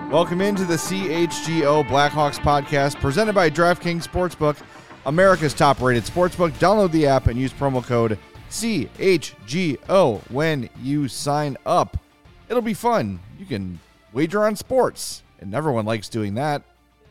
Welcome into the CHGO Blackhawks podcast presented by DraftKings Sportsbook, America's top-rated sportsbook. Download the app and use promo code CHGO when you sign up. It'll be fun. You can wager on sports, and everyone likes doing that.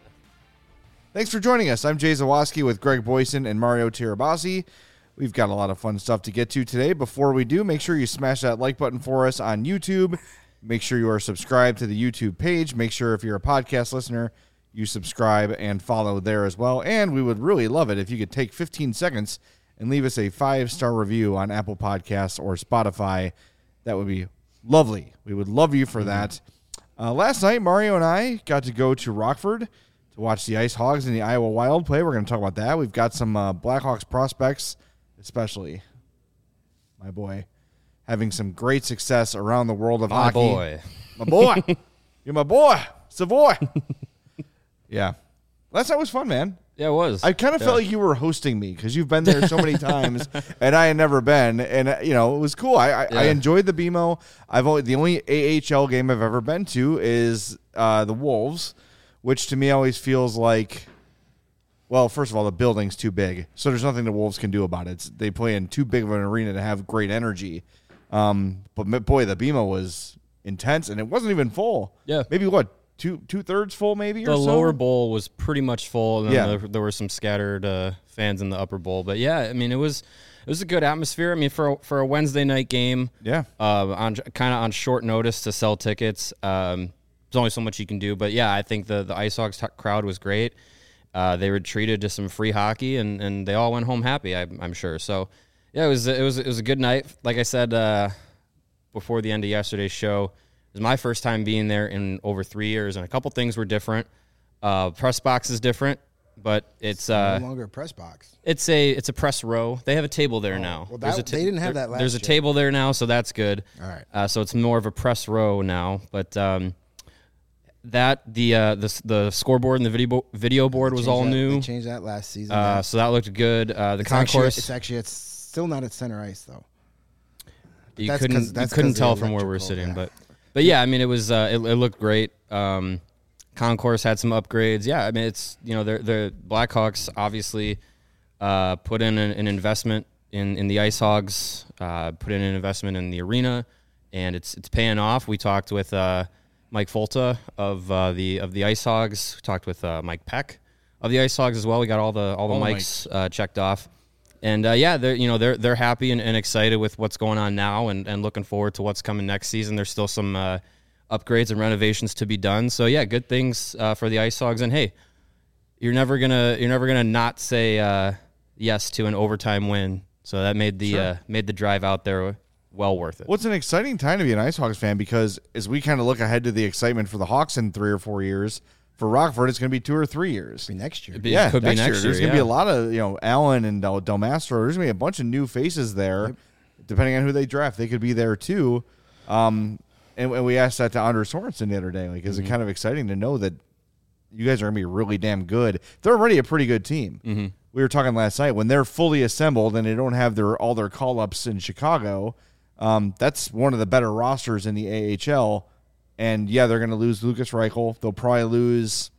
Thanks for joining us. I'm Jay Zawoski with Greg Boyson and Mario Tirabassi. We've got a lot of fun stuff to get to today. Before we do, make sure you smash that like button for us on YouTube. Make sure you are subscribed to the YouTube page. Make sure if you're a podcast listener, you subscribe and follow there as well. And we would really love it if you could take 15 seconds and leave us a 5-star review on Apple Podcasts or Spotify. That would be lovely. We would love you for that. Last night, Mario and I got to go to Rockford to watch the Ice Hogs and the Iowa Wild play. We're going to talk about that. We've got some Blackhawks prospects, especially my boy, having some great success around the world of hockey. My boy. You're my boy. Savoy. Yeah. Last night was fun, man. Yeah, it was. I kind of felt like you were hosting me because you've been there so many times and I had never been. And, it was cool. I enjoyed the BMO. The only AHL game I've ever been to is the Wolves, which to me always feels like, well, first of all, the building's too big. So there's nothing the Wolves can do about it. They play in too big of an arena to have great energy. But boy, the BMO was intense, and it wasn't even full. Yeah, maybe what two-thirds full, maybe. The lower bowl was pretty much full, and then there were some scattered fans in the upper bowl. But yeah, I mean, it was a good atmosphere. I mean, for a Wednesday night game, on short notice to sell tickets. There's only so much you can do, but yeah, I think the Ice Hogs crowd was great. They were treated to some free hockey, and they all went home happy. I'm sure. So. Yeah, it was a good night. Like I said before the end of yesterday's show, it was my first time being there in over 3 years, and a couple things were different. Press box is different, but it's no longer a press box. It's a press row. They have a table there now. Well, they didn't have that last year. There's a table there now, so that's good. All right. So it's more of a press row now, but the scoreboard and the video board was all new. They changed that last season. So that looked good. The concourse. It's still not at center ice though. You couldn't tell from where we were sitting, but yeah, I mean it was it looked great. Concourse had some upgrades. Yeah, I mean it's the Blackhawks obviously put in an investment in the Ice Hogs, put in an investment in the arena, and it's paying off. We talked with Mike Folta of the Ice Hogs. We talked with Mike Peck of the Ice Hogs as well. We got all the mics checked off. And they're happy and excited with what's going on now and looking forward to what's coming next season. There's still some upgrades and renovations to be done. So yeah, good things for the Ice Hogs. And hey, you're never gonna not say yes to an overtime win. So that made the drive out there well worth it. Well, it's an exciting time to be an Ice Hogs fan because as we kind of look ahead to the excitement for the Hawks in 3 or 4 years. For Rockford, it's going to be 2 or 3 years. It'll be next year. Could be next year. There's going to be a lot of, Allen and Del Mastro. There's going to be a bunch of new faces there. Yep. Depending on who they draft, they could be there too. And we asked that to Anders Sorensen the other day. Like, is it kind of exciting to know that you guys are going to be really damn good? They're already a pretty good team. Mm-hmm. We were talking last night when they're fully assembled and they don't have all their call-ups in Chicago. That's one of the better rosters in the AHL. And, yeah, they're going to lose Lucas Reichel. They'll probably lose,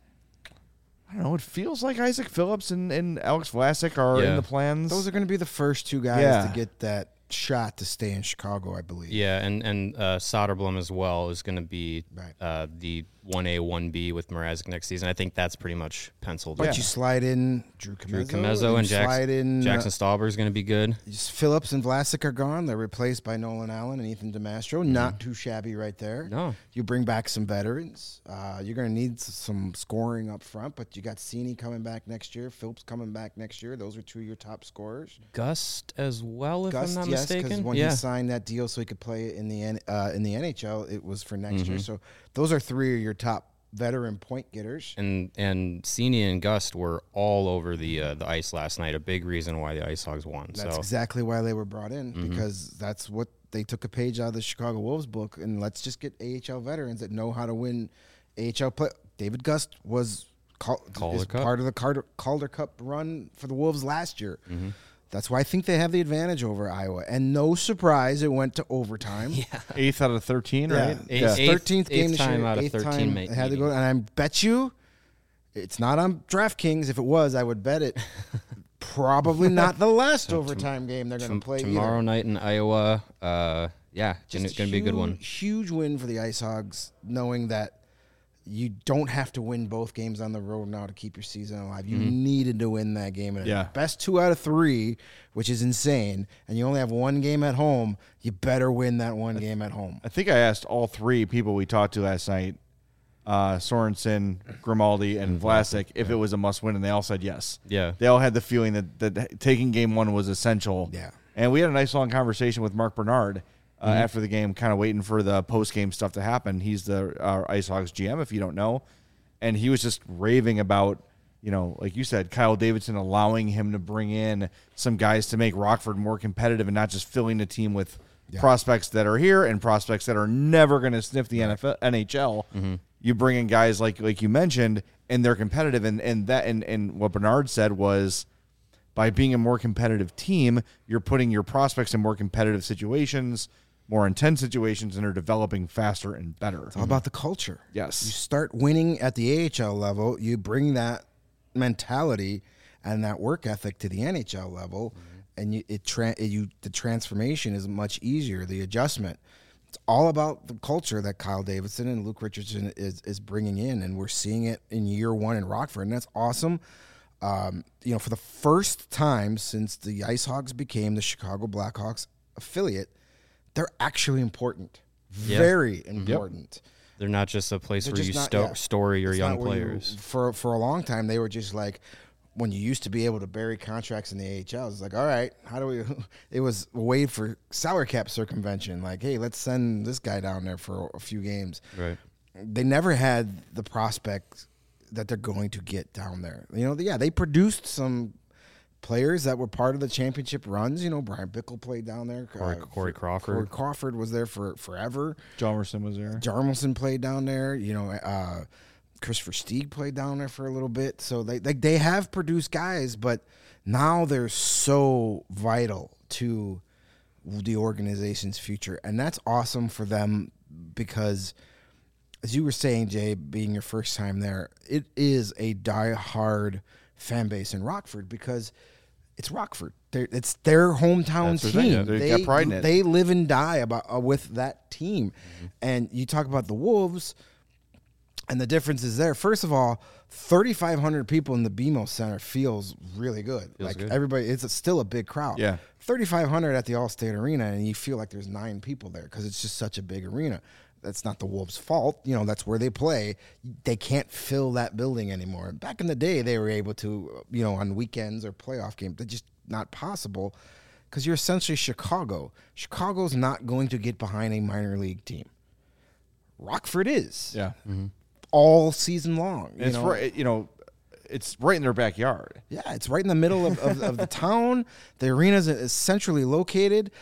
I don't know, it feels like Isaac Phillips and Alex Vlasic are in the plans. Those are going to be the first two guys to get that shot to stay in Chicago, I believe. Yeah, and Soderblom as well is going to be the 1A, 1B with Mrazek next season. I think that's pretty much penciled. But you slide in Drew Comezzo and Jackson Stauber is going to be good. Phillips and Vlasic are gone. They're replaced by Nolan Allen and Ethan DeMastro. Mm-hmm. Not too shabby right there. No. You bring back some veterans. You're going to need some scoring up front, but you got Cini coming back next year. Phillips coming back next year. Those are 2 of your top scorers. Gust as well, if I'm not mistaken. Because when he signed that deal so he could play in the NHL, it was for next year. So those are 3 of your top veteran point getters. And Cini and Gust were all over the ice last night. A big reason why the Ice Hogs won. That's exactly why they were brought in, because that's what they took a page out of the Chicago Wolves book. And let's just get AHL veterans that know how to win AHL play. David Gust was part of the Calder Cup run for the Wolves last year. Mm-hmm. That's why I think they have the advantage over Iowa. And no surprise, it went to overtime. Yeah. 8th out of 13, right? Yeah. 13th game this year. Out of 13 it had to go. And I bet you it's not on DraftKings. If it was, I would bet it. Probably not the last overtime game they're going to play tomorrow night in Iowa. It's going to be a good one. Huge win for the Ice Hogs, knowing that you don't have to win both games on the road now to keep your season alive. You needed to win that game. And best 2 out of 3, which is insane, and you only have one game at home, you better win that one game at home. I think I asked all 3 people we talked to last night, Sorensen, Grimaldi, and Vlasic, if it was a must-win, and they all said yes. Yeah. They all had the feeling that taking game 1 was essential. Yeah. And we had a nice long conversation with Mark Bernard after the game, kind of waiting for the post-game stuff to happen. He's the Ice Hogs GM, if you don't know. And he was just raving about, like you said, Kyle Davidson allowing him to bring in some guys to make Rockford more competitive and not just filling the team with prospects that are here and prospects that are never going to sniff the NHL. Mm-hmm. You bring in guys like you mentioned, and they're competitive. And what Bernard said was, by being a more competitive team, you're putting your prospects in more competitive situations, more intense situations, and are developing faster and better. It's all about the culture. Yes. You start winning at the AHL level, you bring that mentality and that work ethic to the NHL level, and the transformation is much easier, the adjustment. It's all about the culture that Kyle Davidson and Luke Richardson is bringing in, and we're seeing it in year 1 in Rockford, and that's awesome. For the first time since the Ice Hogs became the Chicago Blackhawks affiliate, they're actually important. Very important. Yep. They're not just a place where you store your young players. For a long time, they were just like, when you used to be able to bury contracts in the AHL, it's like, all right, how do we? It was a way for salary cap circumvention. Like, hey, let's send this guy down there for a few games. Right. They never had the prospect that they're going to get down there. They produced some players that were part of the championship runs. Brian Bickle played down there. Corey Crawford. Corey Crawford was there for forever. Jarmelson was there. Jarmelson played down there. Christopher Stieg played down there for a little bit. So they have produced guys, but now they're so vital to the organization's future. And that's awesome for them because, as you were saying, Jay, being your first time there, it is a die-hard fan base in Rockford because it's Rockford. It's their hometown team. They got pride in it. They live and die with that team. Mm-hmm. And you talk about the Wolves, and the difference is there. First of all, 3,500 people in the BMO Center feels really good. Good. Everybody, it's still a big crowd. Yeah. 3,500 at the Allstate Arena, and you feel like there's 9 people there because it's just such a big arena. That's not the Wolves' fault. That's where they play. They can't fill that building anymore. Back in the day, they were able to, on weekends or playoff games. They're just not possible because you're essentially Chicago. Chicago's not going to get behind a minor league team. Rockford is. Yeah. Mm-hmm. All season long. It's right. It's right in their backyard. Yeah, it's right in the middle of the town. The arena is centrally located.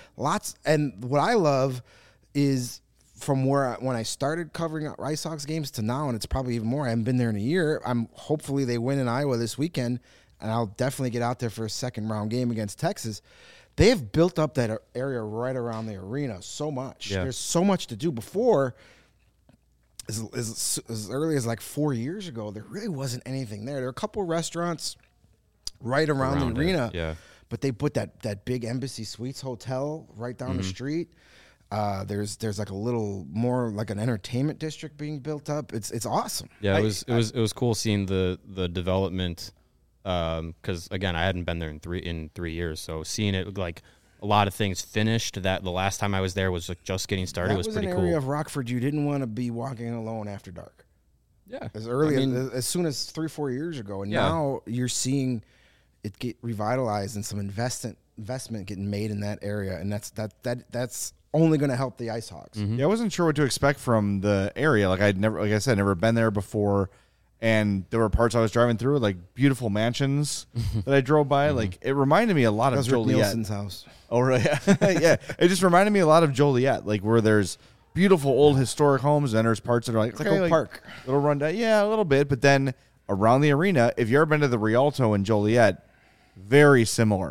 And what I love is, from when I started covering Ice Hogs games to now, and it's probably even more. I haven't been there in a year. Hopefully they win in Iowa this weekend, and I'll definitely get out there for a second round game against Texas. They've built up that area right around the arena so much. Yeah. There's so much to do. Before, as early as like 4 years ago, there really wasn't anything there. There were a couple of restaurants right around the arena, but they put that big Embassy Suites hotel right down the street. There's like a little more like an entertainment district being built up. It's awesome. Yeah, it was cool seeing the development. Because again, I hadn't been there in 3 years, so seeing it like a lot of things finished. That the last time I was there was like just getting started. It was pretty cool. That was an area of Rockford you didn't want to be walking alone after dark. Yeah, as soon as 3-4 years ago, and now you're seeing it get revitalized and some investment getting made in that area, and that's only going to help the Ice Hogs. Mm-hmm. Yeah, I wasn't sure what to expect from the area. Like I said, never been there before, and there were parts I was driving through, like beautiful mansions that I drove by. Like it reminded me a lot of Joliet. Rick Nielsen's house. Oh, really? Yeah, it just reminded me a lot of Joliet, like where there's beautiful old historic homes, and there's parts that are like a park, little rundown. Yeah, a little bit, but then around the arena, if you ever been to the Rialto in Joliet, very similar.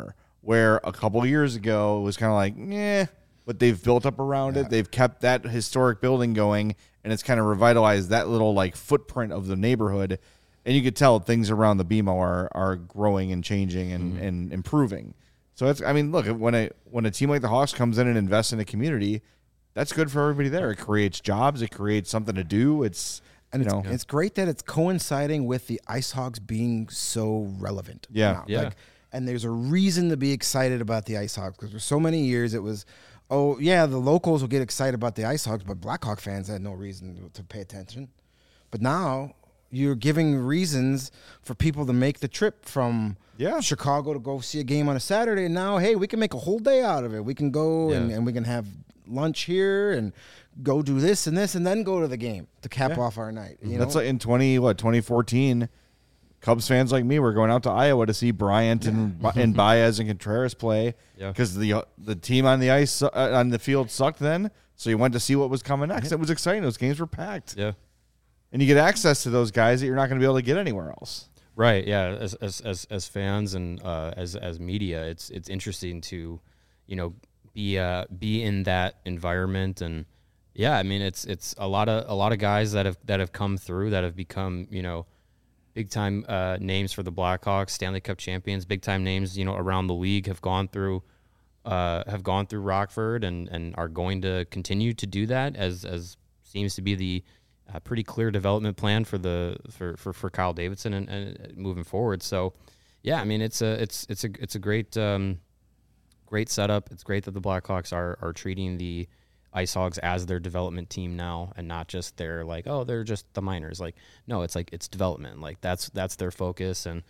where a couple years ago it was kind of like, but they've built up around it. They've kept that historic building going, and it's kind of revitalized that little like footprint of the neighborhood. And you could tell things around the BMO are growing and changing and improving. So it's, I mean, look, when a team like the Hawks comes in and invests in a community, that's good for everybody there. It creates jobs. It creates something to do. It's great that it's coinciding with the Ice Hogs being so relevant. Yeah. And there's a reason to be excited about the Ice Hogs, because for so many years it was, the locals will get excited about the Ice Hogs, but Blackhawk fans had no reason to pay attention. But now you're giving reasons for people to make the trip from Chicago to go see a game on a Saturday. And now, hey, we can make a whole day out of it. We can go and we can have lunch here and go do this and this and then go to the game to cap off our night. You know? That's like in 2014, Cubs fans like me were going out to Iowa to see Bryant and Baez and Contreras play because the team on the ice on the field sucked then. So you went to see what was coming next. It was exciting. Those games were packed. Yeah. And you get access to those guys that you're not going to be able to get anywhere else. Right. Yeah. As fans and as media, it's interesting to, be in that environment. And I mean, it's a lot of guys that have come through that have become, big time names for the Blackhawks, Stanley Cup champions, big time names, around the league have gone through Rockford and are going to continue to do that as seems to be the pretty clear development plan for Kyle Davidson and moving forward. So, I mean, it's a great great setup. It's great that the Blackhawks are treating the Ice Hogs as their development team now, and not just they're just the minors. Like, no, it's like it's development. Like that's their focus. And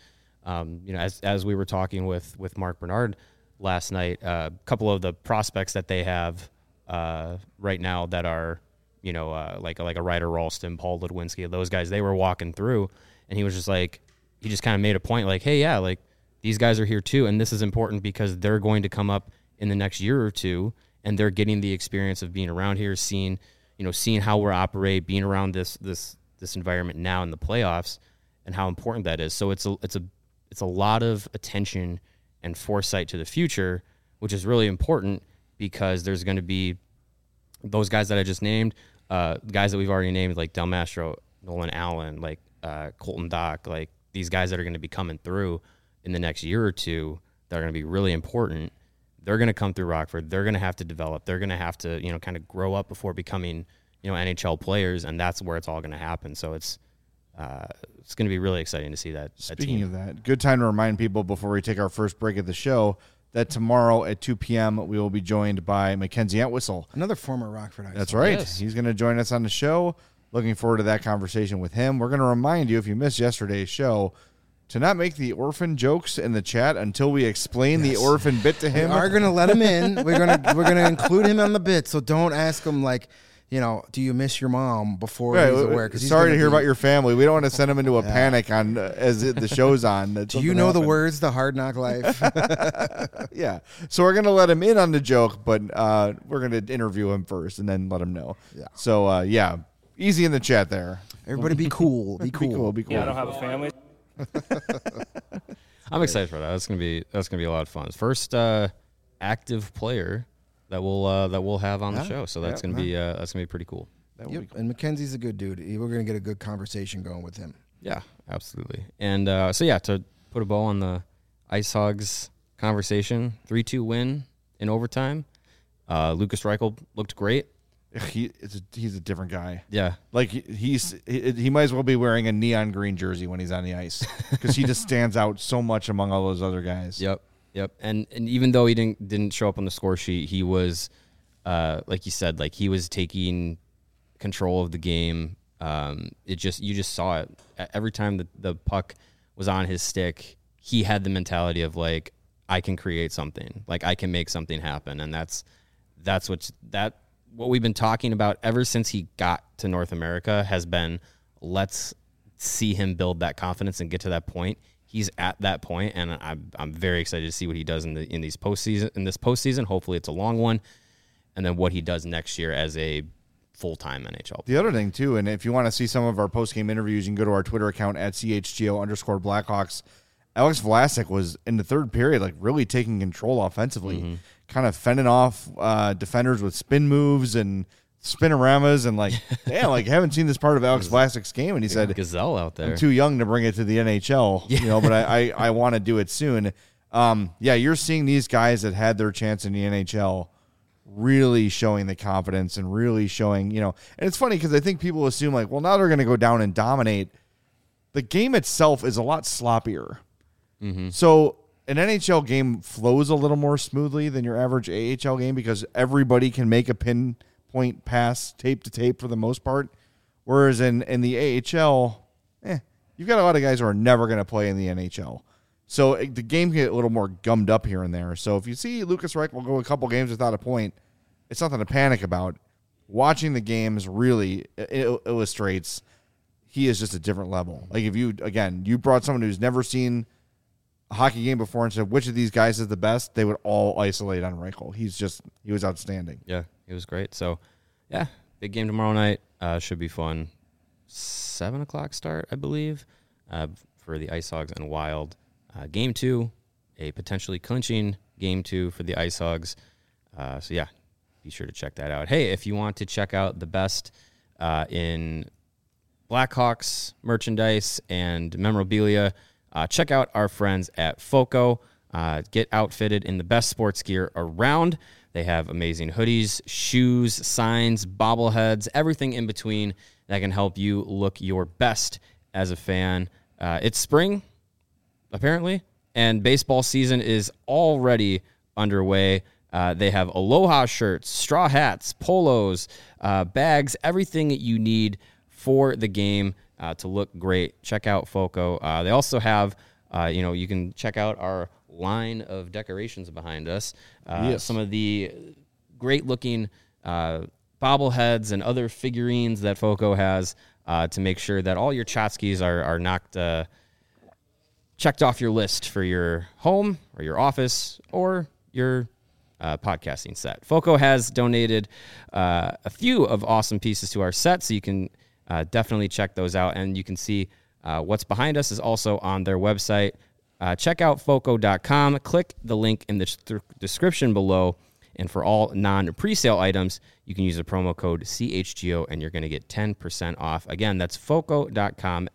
as we were talking with Mark Bernard last night, a couple of the prospects that they have right now that are like a Ryder Ralston, Paul Ludwinski, those guys, they were walking through, and he was just like, he just kind of made a point like, hey, like these guys are here too, and this is important because they're going to come up in the next year or two, and they're getting the experience of being around here, seeing how we operate, being around this environment now in the playoffs, and how important that is. So it's a lot of attention and foresight to the future, which is really important because there's going to be those guys that I just named, guys that we've already named like Del Mastro, Nolan Allen, like Colton Dock, like these guys that are going to be coming through in the next year or two that are going to be really important. They're going to come through Rockford. They're going to have to develop. They're going to have to, kind of grow up before becoming, NHL players, and that's where it's all going to happen. So it's going to be really exciting to see that. Speaking of that, good time to remind people before we take our first break of the show that tomorrow at 2 p.m. we will be joined by Mackenzie Entwistle, another former Rockford Ice. That's right. Yes. He's going to join us on the show. Looking forward to that conversation with him. We're going to remind you, if you missed yesterday's show, to not make the orphan jokes in the chat until we explain the orphan bit to him. We are going to let him in. We're going to include him on the bit. So don't ask him like, do you miss your mom before he's aware? Cause sorry to hear about your family. We don't want to send him into a panic as the show's on. Do you know the words "The Hard Knock Life"? Yeah. So we're gonna let him in on the joke, but we're gonna interview him first and then let him know. Yeah. So easy in the chat there. Everybody, be cool. Be cool. Be cool. Yeah, I don't have a family. I'm excited for that. That's gonna be a lot of fun. First active player that we'll have on the show. So that's gonna be pretty cool. Yep. Cool. And Mackenzie's a good dude. We're gonna get a good conversation going with him. Yeah, absolutely. And to put a bow on the Ice Hogs conversation, 3-2 win in overtime. Lucas Reichel looked great. He's a different guy. Yeah, like he might as well be wearing a neon green jersey when he's on the ice because he just stands out so much among all those other guys. Yep. And even though he didn't show up on the score sheet, he was like you said, like he was taking control of the game. You just saw it every time the puck was on his stick. He had the mentality of like, I can create something, like I can make something happen, and that's what we've been talking about ever since he got to North America has been, let's see him build that confidence and get to that point. He's at that point, and I'm very excited to see what he does in this postseason. Hopefully, it's a long one, and then what he does next year as a full-time NHL player. The other thing too, and if you want to see some of our post-game interviews, you can go to our Twitter account at @CHGO_Blackhawks. Alex Vlasic was in the third period, like really taking control offensively, kind of fending off defenders with spin moves and spinoramas, and like, damn, like haven't seen this part of Alex Vlasic's game. And he said, gazelle out there. I'm too young to bring it to the NHL, you know, but I want to do it soon. Yeah, you're seeing these guys that had their chance in the NHL really showing the confidence and really showing, you know, and it's funny because I think people assume like, well, now they're going to go down and dominate. The game itself is a lot sloppier. So an NHL game flows a little more smoothly than your average AHL game because everybody can make a pinpoint pass tape to tape for the most part. Whereas in the AHL, you've got a lot of guys who are never going to play in the NHL. So the game can get a little more gummed up here and there. So if you see Lucas Reichel go a couple games without a point, it's nothing to panic about. Watching the games really illustrates he is just a different level. Like if you brought someone who's never seen a hockey game before and said, which of these guys is the best, they would all isolate on Reichel. He was outstanding. Yeah, he was great. So, yeah, big game tomorrow night. Should be fun. 7 o'clock start, I believe, for the Ice Hogs and Wild. Game 2, a potentially clinching Game 2 for the Ice Hogs. So, yeah, be sure to check that out. Hey, if you want to check out the best in Blackhawks merchandise and memorabilia, check out our friends at FOCO. Get outfitted in the best sports gear around. They have amazing hoodies, shoes, signs, bobbleheads, everything in between that can help you look your best as a fan. It's spring, apparently, and baseball season is already underway. They have Aloha shirts, straw hats, polos, bags, everything that you need for the game to look great. Check out FOCO. They also have, you can check out our line of decorations behind us. Yes. Some of the great-looking bobbleheads and other figurines that FOCO has to make sure that all your tchotchkes are knocked, checked off your list for your home or your office or your podcasting set. FOCO has donated a few of awesome pieces to our set, so you can definitely check those out, and you can see what's behind us is also on their website. Check out FOCO.com. Click the link in the description below, and for all non-presale items, you can use the promo code CHGO, and you're going to get 10% off. Again, that's FOCO.com,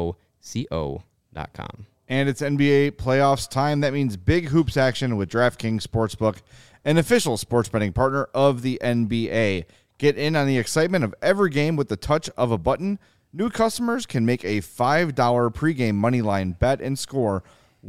FOCO.com. And it's NBA playoffs time. That means big hoops action with DraftKings Sportsbook, an official sports betting partner of the NBA. Get in on the excitement of every game with the touch of a button. New customers can make a $5 pregame moneyline bet and score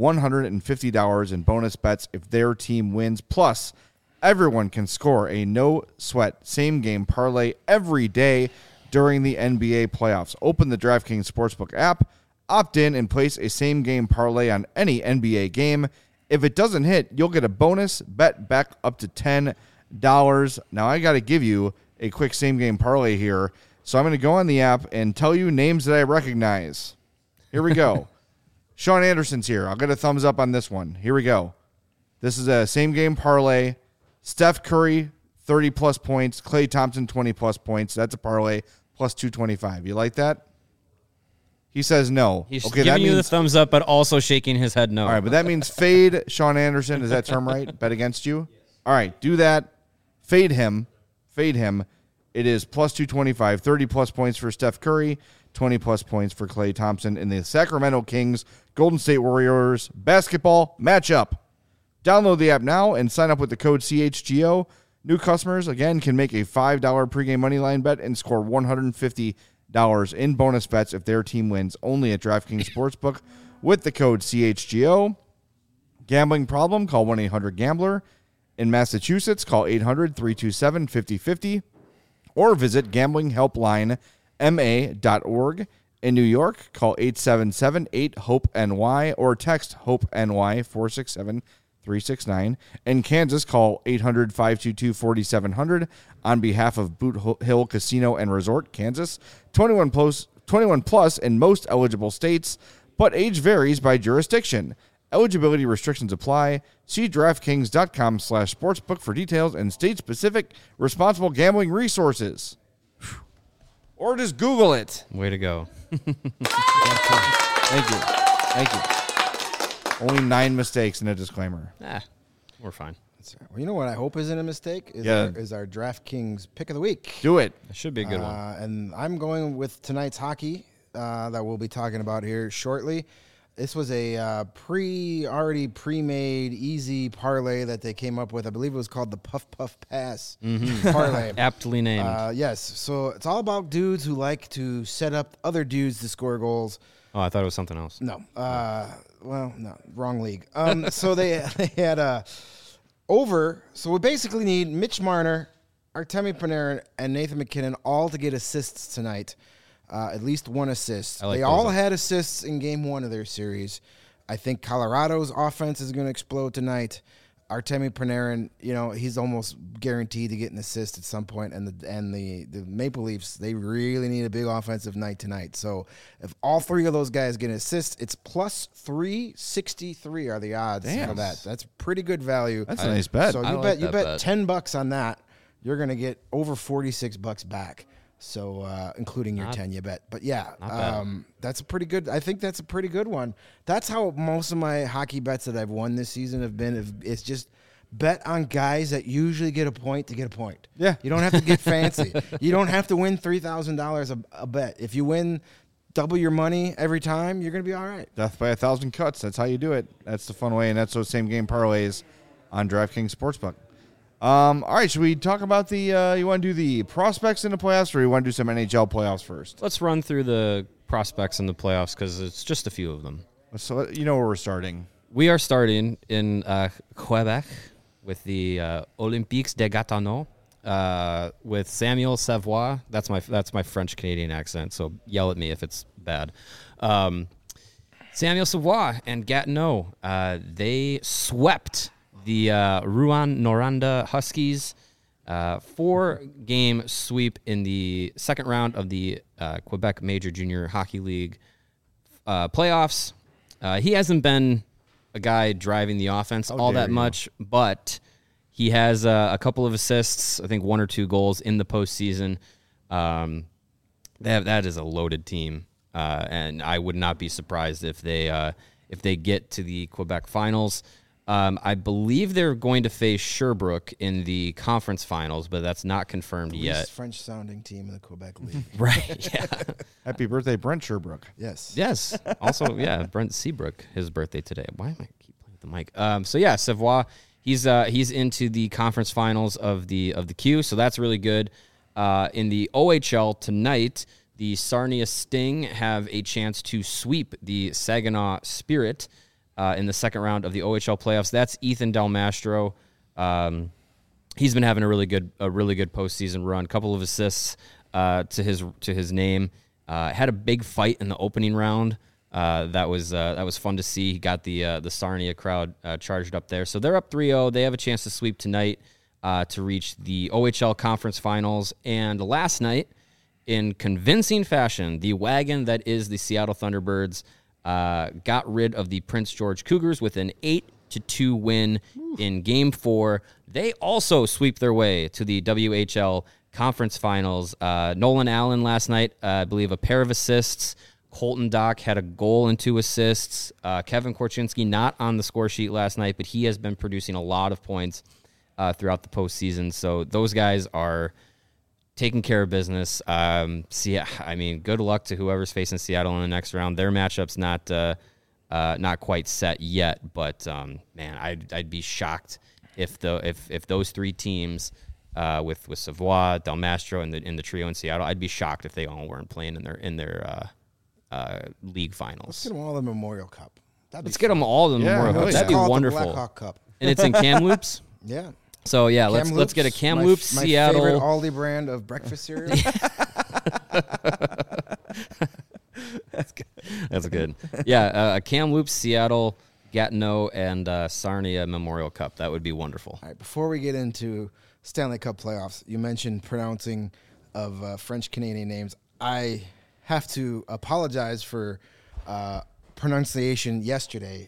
$150 in bonus bets if their team wins. Plus, everyone can score a no-sweat same-game parlay every day during the NBA playoffs. Open the DraftKings Sportsbook app, opt in, and place a same-game parlay on any NBA game. If it doesn't hit, you'll get a bonus bet back up to $10. Now, I got to give you a quick same-game parlay here. So I'm going to go on the app and tell you names that I recognize. Here we go. Sean Anderson's here. I'll get a thumbs up on this one. Here we go. This is a same-game parlay. Steph Curry, 30-plus points. Klay Thompson, 20-plus points. That's a parlay, plus 225. You like that? He says no. He's giving you the thumbs up, but also shaking his head no. All right, but that means fade Sean Anderson. Is that term right? Bet against you? All right, do that. Fade him. Fade him. It is plus 225, 30-plus points for Steph Curry, 20-plus points for Klay Thompson in the Sacramento Kings Golden State Warriors basketball matchup. Download the app now and sign up with the code CHGO. New customers, again, can make a $5 pregame moneyline bet and score $150 in bonus bets if their team wins, only at DraftKings Sportsbook with the code CHGO. Gambling problem? Call 1-800-GAMBLER. In Massachusetts, call 800-327-5050. Or visit gamblinghelplinema.org. In New York, call 877-8-HOPE-NY or text HOPE-NY 467-369. In Kansas, call 800-522-4700 on behalf of Boot Hill Casino and Resort, Kansas. 21 plus in most eligible states, but age varies by jurisdiction. Eligibility restrictions apply. See DraftKings.com/sportsbook for details and state-specific responsible gambling resources. Or just Google it. Way to go. Thank you. Only 9 mistakes and a disclaimer. We're fine. Well, you know what I hope isn't a mistake is our DraftKings pick of the week. Do it. It should be a good one. And I'm going with tonight's hockey that we'll be talking about here shortly. This was a already pre-made easy parlay that they came up with. I believe it was called the Puff Puff Pass parlay. Aptly named. Yes. So it's all about dudes who like to set up other dudes to score goals. Oh, I thought it was something else. No. No, wrong league. So they had over. So we basically need Mitch Marner, Artemi Panarin, and Nathan MacKinnon all to get assists tonight. At least one assist. They all had assists in game 1 of their series. I think Colorado's offense is going to explode tonight. Artemi Panarin, he's almost guaranteed to get an assist at some point. And the Maple Leafs, they really need a big offensive night tonight. So if all 3 of those guys get an assist, it's plus 363 are the odds for that. That's pretty good value. That's a nice bet. So you bet $10 on that. You're going to get over $46 back. So, including your 10 you bet. But yeah, that's a pretty good. I think that's a pretty good one. That's how most of my hockey bets that I've won this season have been. It's just bet on guys that usually get a point to get a point. Yeah. You don't have to get fancy. You don't have to win $3,000 a bet. If you win double your money every time, you're going to be all right. Death by 1,000 cuts. That's how you do it. That's the fun way, and that's those same game parlays on DraftKings Sportsbook. All right, should we talk about you want to do the prospects in the playoffs, or you want to do some NHL playoffs first? Let's run through the prospects in the playoffs because it's just a few of them. So you know where we're starting. We are starting in Quebec with the Olympiques de Gatineau with Samuel Savoie. That's my French-Canadian accent, so yell at me if it's bad. Samuel Savoie and Gatineau, they swept the Rouyn-Noranda Huskies, 4-game sweep in the second round of the Quebec Major Junior Hockey League playoffs. He hasn't been a guy driving the offense all that much, but he has a couple of assists, I think 1 or 2 goals in the postseason. That is a loaded team, and I would not be surprised if they get to the Quebec finals. I believe they're going to face Sherbrooke in the conference finals, but that's not confirmed yet. Least French-sounding team in the Quebec League. Right, yeah. Happy birthday, Brent Sherbrooke. Yes. Also, yeah, Brent Seabrook, his birthday today. Why am I keep playing with the mic? So yeah, Savoie, he's into the conference finals of the Q, so that's really good. In the OHL tonight, the Sarnia Sting have a chance to sweep the Saginaw Spirit in the second round of the OHL playoffs. That's Ethan Del Mastro. He's been having a really good postseason run. Couple of assists to his name. Had a big fight in the opening round. That was fun to see. He got the Sarnia crowd charged up there. So they're up 3-0. They have a chance to sweep tonight to reach the OHL conference finals. And last night, in convincing fashion, the wagon that is the Seattle Thunderbirds got rid of the Prince George Cougars with an 8-2 win in Game 4. They also sweep their way to the WHL Conference Finals. Nolan Allen last night, I believe, a pair of assists. Colton Dock had a goal and 2 assists. Kevin Korchinski not on the score sheet last night, but he has been producing a lot of points throughout the postseason. So those guys are taking care of business. Good luck to whoever's facing Seattle in the next round. Their matchup's not quite set yet, but I'd be shocked if those 3 teams with Savoie, Del Mastro, and the trio in Seattle, I'd be shocked if they all weren't playing in their league finals. Let's get them all the Memorial Cup. Get them all the Memorial Cup. That'd be wonderful. The Blackhawk Cup. And it's in Kamloops. Yeah. So yeah, let's get a Kamloops Seattle. My favorite Aldi brand of breakfast cereal. That's good. Yeah, a Kamloops, Seattle, Gatineau, and Sarnia Memorial Cup. That would be wonderful. All right, before we get into Stanley Cup playoffs, you mentioned pronouncing of French-Canadian names. I have to apologize for pronunciation yesterday.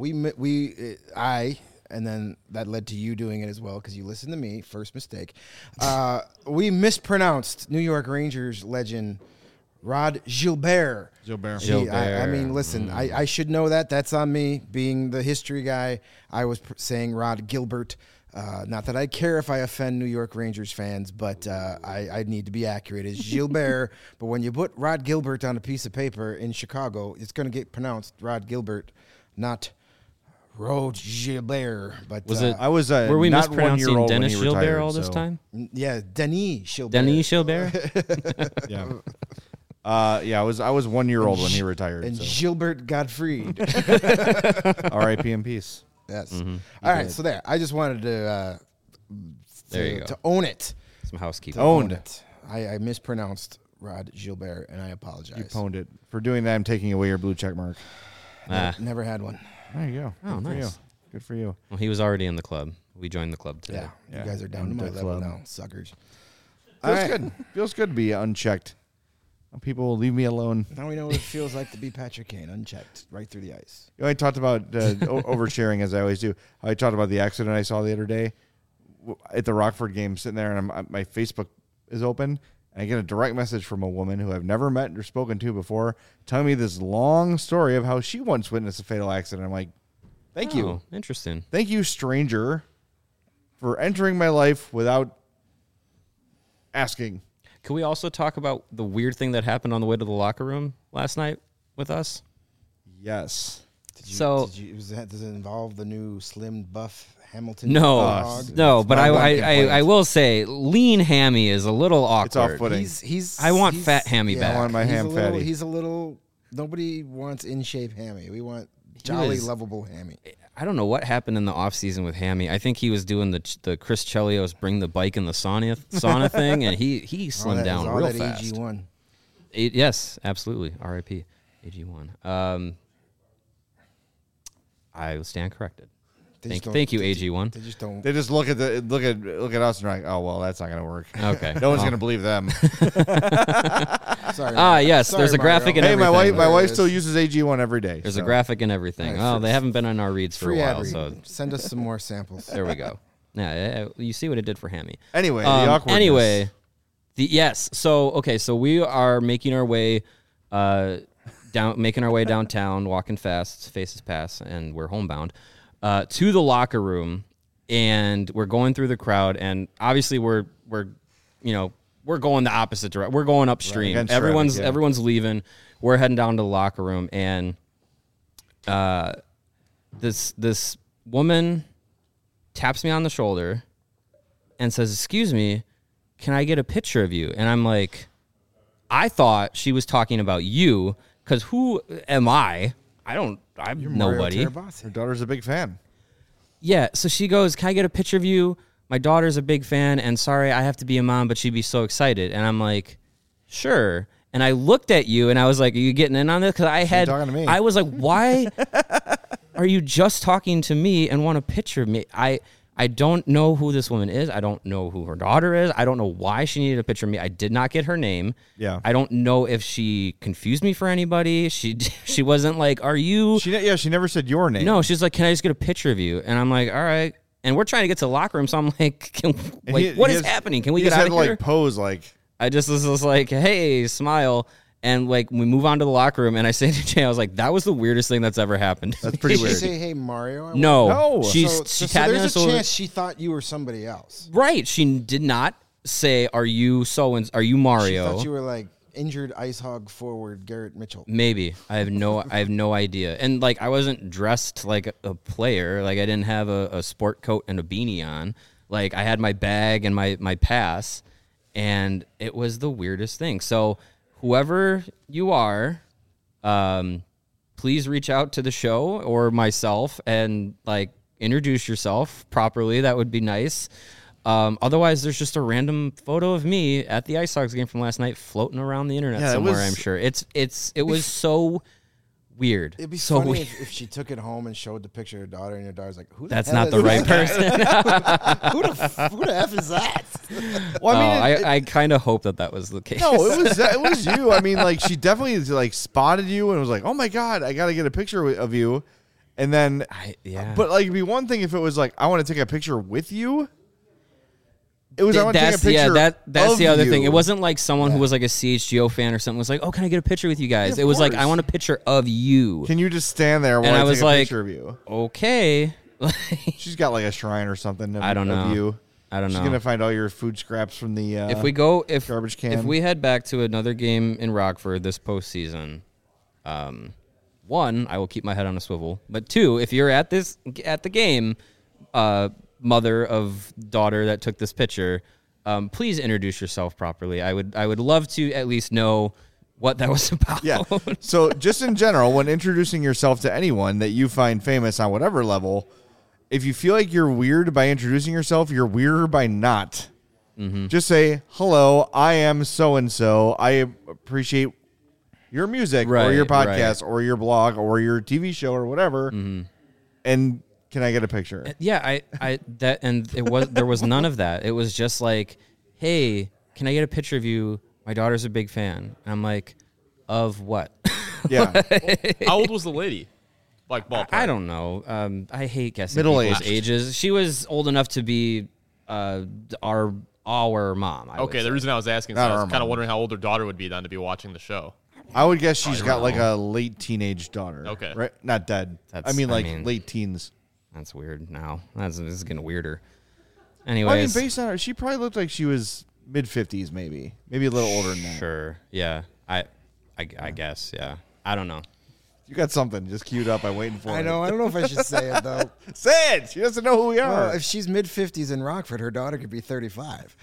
And then that led to you doing it as well because you listened to me. First mistake. We mispronounced New York Rangers legend Rod Gilbert. Gilbert. I mean, listen, I should know that. That's on me, being the history guy. I was saying Rod Gilbert. Not that I care if I offend New York Rangers fans, but I need to be accurate. It's Gilbert, but when you put Rod Gilbert on a piece of paper in Chicago, it's going to get pronounced Rod Gilbert, not Rod Gilbert. But was it? I was were we not mispronouncing 1 year old Dennis when he retired, Gilbert all this time? Yeah, Denis Gilbert. Denis Gilbert. Yeah. I was 1 year old when he retired. And Gilbert Gottfried. R.I.P. in peace. Yes. Mm-hmm. All right. So there. I just wanted to own it. Some housekeeping. Owned it. I mispronounced Rod Gilbert, and I apologize. You pwned it. For doing that, I'm taking away your blue check mark. Never had one. There you go. Oh, nice. Good for you. Well, he was already in the club. We joined the club today. Yeah. You guys are down to my level now, suckers. Feels good. Feels good to be unchecked. People will leave me alone. Now we know what it feels like to be Patrick Kane, unchecked, right through the ice. You know, I talked about oversharing, as I always do. I talked about the accident I saw the other day at the Rockford game, sitting there, and my Facebook is open, and I get a direct message from a woman who I've never met or spoken to before, telling me this long story of how she once witnessed a fatal accident. I'm like, thank you. Interesting. Thank you, stranger, for entering my life without asking. Can we also talk about the weird thing that happened on the way to the locker room last night with us? Yes. Does it involve the new slim buff Hamilton? No, but I will say lean Hammy is a little awkward. It's off-putting. I want fat Hammy back. I want my ham fatty. He's a little. Nobody wants in shape Hammy. We want jolly, lovable Hammy. I don't know what happened in the offseason with Hammy. I think he was doing the Chris Chelios bring the bike in the sauna thing, and he slimmed down real fast. AG1. Yes, absolutely. R.I.P. AG1. I stand corrected. Thank you, AG1. They just don't. They just look at us and are like, oh well, that's not going to work. Okay, no one's going to believe them. Sorry. Yes. Sorry, there's a graphic in everything. Hey, my wife still uses AG1 every day. There's a graphic in everything. Oh, they haven't been on our reads for a while, so send us some more samples. There we go. Yeah, you see what it did for Hammy. Anyway, the awkwardness. So we are making our way downtown, walking fast, faces pass, and we're homebound to the locker room, and we're going through the crowd, and obviously we're going the opposite direction. We're going upstream. Right, everyone's leaving. We're heading down to the locker room, and this woman taps me on the shoulder and says, "Excuse me, can I get a picture of you?" And I'm like, I thought she was talking about you, because who am I? I'm nobody. Her daughter's a big fan. Yeah, so she goes, "Can I get a picture of you? My daughter's a big fan, and sorry, I have to be a mom, but she'd be so excited." And I'm like, sure. And I looked at you, and I was like, are you getting in on this? Because I was like, why are you just talking to me and want a picture of me? I don't know who this woman is. I don't know who her daughter is. I don't know why she needed a picture of me. I did not get her name. Yeah. I don't know if she confused me for anybody. She wasn't like, are you? She never said your name. No, she's like, can I just get a picture of you? And I'm like, all right. And we're trying to get to the locker room, so I'm like, what is happening? Can we get out of here? Pose like. I just was like, hey, smile. And we move on to the locker room, and I say to Jay, I was like, that was the weirdest thing that's ever happened. That's pretty weird. Did she say, hey, Mario? No. She tapped me. There's a chance she thought you were somebody else. Right. She did not say, are you Mario? She thought you were like injured ice hog forward Garrett Mitchell. Maybe. I have no idea. And I wasn't dressed like a player. I didn't have a sport coat and a beanie on. I had my bag and my pass, and it was the weirdest thing. So whoever you are, please reach out to the show or myself and introduce yourself properly. That would be nice. Otherwise, there's just a random photo of me at the Ice Hogs game from last night floating around the internet somewhere. I'm sure it was so weird. It'd be so funny weird. if she took it home and showed the picture of her daughter, and your daughter's like, "Who? That's not the right person. Who the f is that?" Well, I kind of hope that was the case. No, it was you. I mean, she definitely spotted you and was like, "Oh my god, I got to get a picture of you." And then, but it'd be one thing if it was I want to take a picture with you. It was I want to take a picture. That's the other you. thing. It wasn't like someone who was like a CHGO fan or something was like, "Oh, can I get a picture with you guys?" Yeah, it was course. like, "I want a picture of you." Can you just stand there while I was take a picture of you? Okay. She's got like a shrine or something. I don't know. Of you. I don't know. She's gonna find all your food scraps from the garbage can. If we head back to another game in Rockford this postseason, one, I will keep my head on a swivel. But two, if you're at the game, mother of daughter that took this picture, please introduce yourself properly. I would love to at least know what that was about. Yeah. So just in general, when introducing yourself to anyone that you find famous on whatever level, if you feel like you're weird by introducing yourself, you're weirder by not. Mm-hmm. Just say, hello, I am so-and-so. I appreciate your music or your podcast or your blog or your TV show or whatever. Mm-hmm. And can I get a picture? Yeah, there was none of that. It was just like, hey, can I get a picture of you? My daughter's a big fan. And I'm like, of what? Yeah. How old was the lady? Like ballpark? I don't know. I hate guessing Middle-aged. ages. She was old enough to be our mom. Okay, the reason I was asking is I was kind of wondering how old her daughter would be then to be watching the show. I would guess she's got like a late teenage daughter. Okay. Right? Not dead. Late teens. That's weird now. This is getting weirder. Anyways. Based on her, she probably looked like she was mid-50s maybe. Maybe a little older than that. Sure. Yeah. I guess, yeah. I don't know. You got something just queued up. I'm waiting for it. I know. I don't know if I should say it, though. Say it. She doesn't know who we are. Well, if she's mid-50s in Rockford, her daughter could be 35.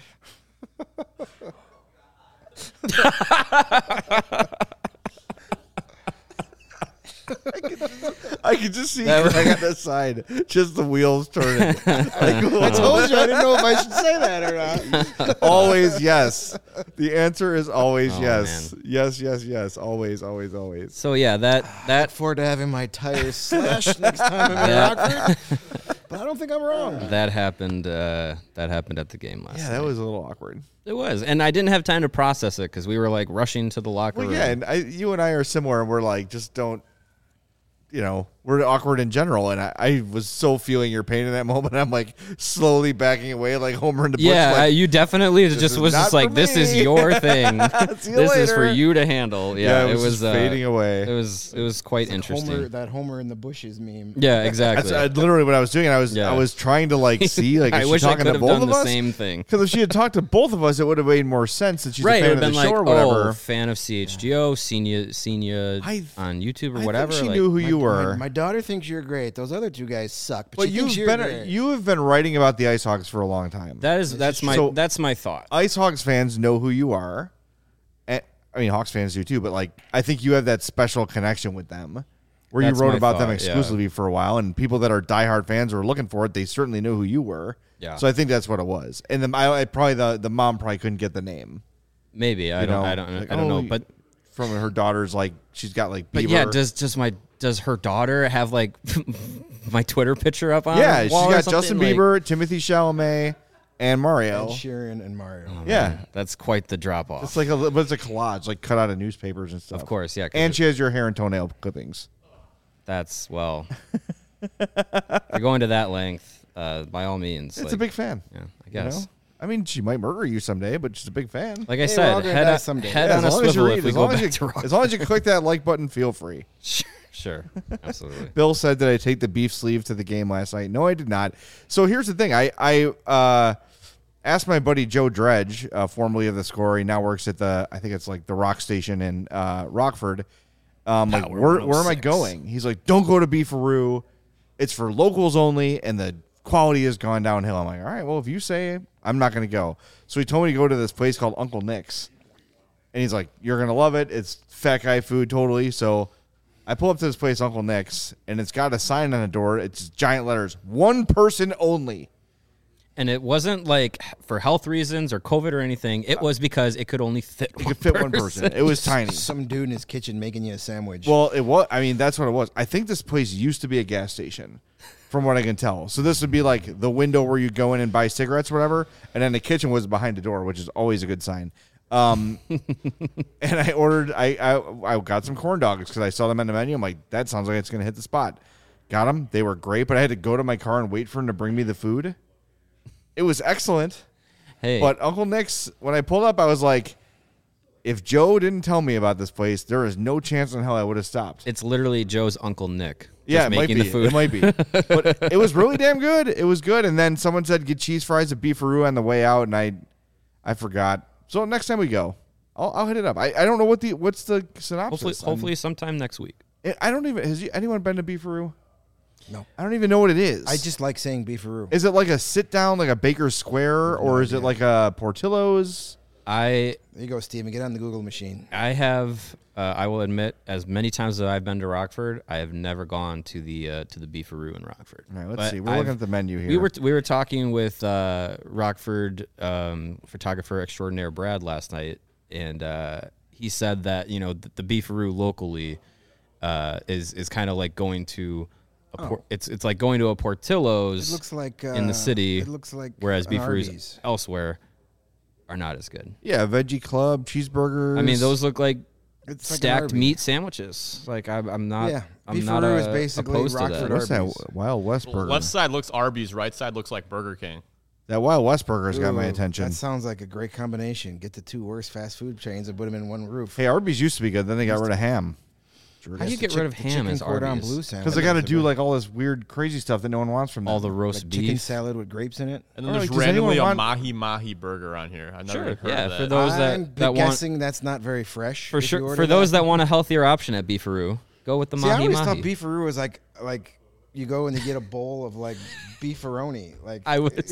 I could just see Greg on the side, just the wheels turning. I told you I didn't know if I should say that or not. Always yes. The answer is always yes. Man. Yes. Always. So yeah, that Look forward to having my tires slashed next time I'm in Rockford. But I don't think I'm wrong. that happened. That happened at the game last. Yeah, night. that was a little awkward. It was, and I didn't have time to process it because we were like rushing to the locker room. Yeah, and you and I are similar, and we're like, just don't. We're awkward in general, and I was so feeling your pain in that moment. I'm like slowly backing away, like Homer in the bush. Yeah, like, you definitely was just like, this is your thing. This is for you to handle. Yeah, it was fading away. It was quite interesting. That Homer in the bushes meme. Yeah, exactly. That's literally what I was doing. I was trying to like see like I wish I could have done the same thing. Because if she had talked to both of us, it would have made more sense that she's a fan of the show or whatever. Oh, fan of CHGO, senior on YouTube or whatever. I think she knew who you were. My daughter thinks you're great. Those other two guys suck. But you have been writing about the Ice Hogs for a long time. That's my thought. Ice Hogs fans know who you are. And, I mean, Hawks fans do too. But like, I think you have that special connection with them, where you wrote about them exclusively for a while, and people that are diehard fans were looking for it. They certainly knew who you were. Yeah. So I think that's what it was. And then the mom probably couldn't get the name. Maybe I don't know. But from her daughter's like she's got like. Bieber. But yeah, does her daughter have like my Twitter picture up on? Yeah, her wall she's got Justin Bieber, Timothy Chalamet, and Mario. Ed Sheeran and Mario. Oh, yeah, that's quite the drop off. It's like it's a collage, like cut out of newspapers and stuff. Of course, yeah. And she has your hair and toenail clippings. That's if you're going to that length, by all means. It's a big fan. Yeah, I guess. I mean, she might murder you someday, but she's a big fan. Like I said, head on a swivel if we go back to Rock. As long as you click that like button, feel free. Sure, absolutely. Bill said, did I take the beef sleeve to the game last night? No, I did not. So here's the thing. I asked my buddy Joe Dredge, formerly of The Score. He now works at I think it's like the Rock Station in Rockford. Like, where am I going? He's like, don't go to Beefaroo. It's for locals only, and the quality has gone downhill. I'm like, all right, well, if you say it, I'm not going to go. So he told me to go to this place called Uncle Nick's. And he's like, you're going to love it. It's fat guy food totally. So I pull up to this place, Uncle Nick's, and it's got a sign on the door. It's giant letters, 1 person only. And it wasn't like for health reasons or COVID or anything. It was because it could only fit one person. It was tiny. Some dude in his kitchen making you a sandwich. Well, it was. I mean, that's what it was. I think this place used to be a gas station, from what I can tell. So this would be like the window where you go in and buy cigarettes or whatever, and then the kitchen was behind the door, which is always a good sign. And I ordered. I got some corn dogs because I saw them on the menu. I'm like, that sounds like it's going to hit the spot. Got them. They were great, but I had to go to my car and wait for him to bring me the food. It was excellent. Hey. But Uncle Nick's, when I pulled up, I was like, if Joe didn't tell me about this place, there is no chance in hell I would have stopped. It's literally Joe's Uncle Nick. Yeah, it making might be. The food. It might be. But it was really damn good. It was good. And then someone said get cheese fries at Beefaroo on the way out, and I forgot. So next time we go, I'll hit it up. I don't know what's the synopsis. Hopefully sometime next week. I don't even. Has anyone been to Beefaroo? No. I don't even know what it is. I just like saying Beefaroo. Is it like a sit down, like a Baker's Square, or is it like a Portillo's? There you go, Steven. Get on the Google machine. I have. I will admit, as many times as I've been to Rockford, I have never gone to the Beefaroo in Rockford. All right, let's see. We're looking at the menu here. We were talking with Rockford photographer extraordinaire Brad last night, and he said that the Beefaroo locally is kind of like going to. It's like going to a Portillo's. It looks like in the city. It looks like whereas Beefaroo's elsewhere are not as good. Yeah, Veggie Club, cheeseburgers. I mean, those look like it's stacked meat sandwiches. Like I'm not. Yeah, I'm not Beefaroo is basically opposed to Rockford that. What's Arby's. that Wild West burger? Left side looks Arby's, right side looks like Burger King. That Wild West burger's got my Ooh, attention. That sounds like a great combination. Get the two worst fast food chains and put them in one roof. Hey, Arby's used to be good. Then they got rid of ham. How do you get rid of ham as Arby's? Because they got to do like all this weird, crazy stuff that no one wants from them. All the roast beef, chicken salad with grapes in it. And then there's randomly a mahi mahi burger on here. I've never heard of that. For those I'm that guessing want, that's not very fresh. For sure, for those that want a healthier option at Beefaroo, go with the mahi mahi. I always thought Beefaroo was like you go and you get a bowl of like beefaroni. Like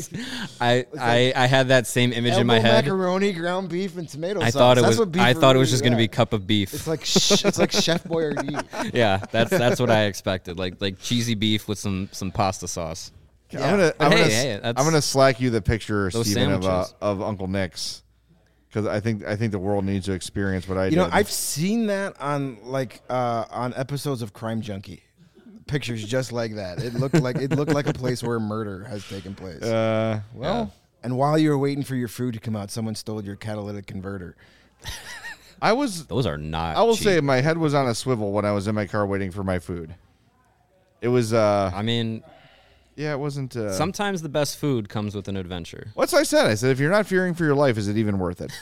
I had that same image in my head. Macaroni, ground beef, and tomato sauce. I thought it was just going to be cup of beef. It's like Chef Boyardee. Yeah, that's what I expected. Like cheesy beef with some pasta sauce. Yeah. I'm gonna slack you the picture, Steven, of Uncle Nick's, because I think the world needs to experience what I did. I've seen that on on episodes of Crime Junkie. Pictures just like that. It looked like a place where murder has taken place. And while you were waiting for your food to come out, someone stole your catalytic converter. Those are not. I will cheap. say my head was on a swivel when I was in my car waiting for my food. It was. I mean, yeah, it wasn't. Sometimes the best food comes with an adventure. What's I said? I said if you're not fearing for your life, is it even worth it?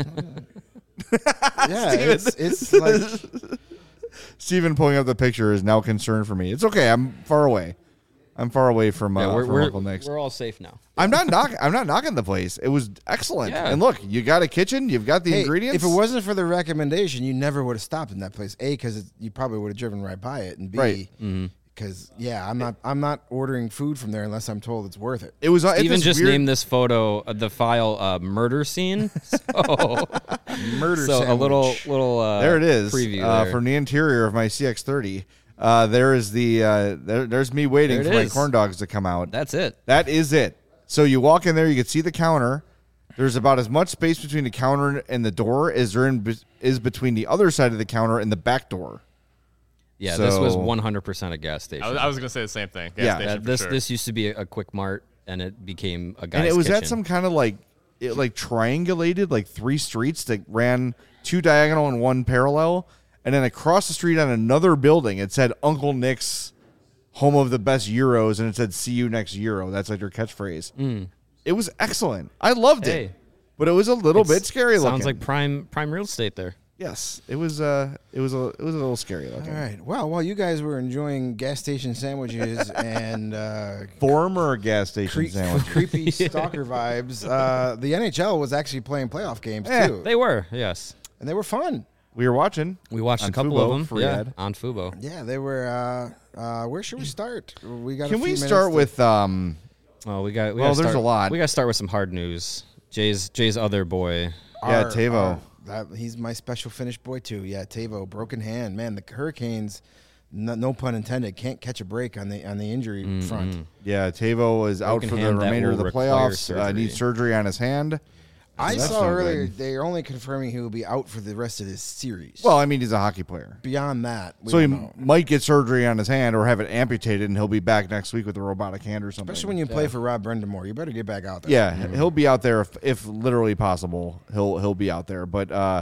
Yeah, it's like. Steven pulling up the picture is now concerned for me. It's okay. I'm far away. I'm far away from Uncle Nick's. We're all safe now. I'm not knocking the place. It was excellent. Yeah. And look, you got a kitchen. You've got the ingredients. If it wasn't for the recommendation, you never would have stopped in that place. A, because you probably would have driven right by it, and B, because I'm not ordering food from there unless I'm told it's worth it. It was. Steven just named this photo the file murder scene. So Murder. So sandwich. a little. There it is. Preview there. From the interior of my CX-30. There is there's me waiting for my corn dogs to come out. That's it. That is it. So you walk in there, you can see the counter. There's about as much space between the counter and the door as there is between the other side of the counter and the back door. Yeah, this was 100% a gas station. I was going to say the same thing. Gas station for sure. This used to be a Quick Mart, and it became a guy's And it was kitchen. at some kind of like triangulated, like 3 streets that ran 2 diagonal and 1 parallel. And then across the street on another building, it said Uncle Nick's, home of the best Euros, and it said "See you next Euro." That's like their catchphrase. It was excellent. I loved it, but it was a little bit scary looking. Sounds like prime real estate there. Yes, it was a little scary looking. All right. Well, while you guys were enjoying gas station sandwiches and former gas station sandwiches, creepy stalker vibes, the NHL was actually playing playoff games too. They were, yes, and they were fun. We were watching. We watched a couple of them. On Fubo. Yeah, they were. Where should we start? We got. Can we start with? Well, there's a lot. We got to start with some hard news. Jay's other boy. Tavo. He's my special finish boy too. Yeah, Tavo, broken hand. Man, the Hurricanes, no pun intended, can't catch a break on the injury front. Yeah, Tavo is out for the remainder of the playoffs. Needs surgery on his hand. I saw earlier they're only confirming he will be out for the rest of this series. Well, I mean, he's a hockey player. Beyond that, so he might get surgery on his hand or have it amputated, and he'll be back next week with a robotic hand or something. Especially when you play for Rob Brendamore, you better get back out there. Yeah, he'll be out there if literally possible. He'll be out there, but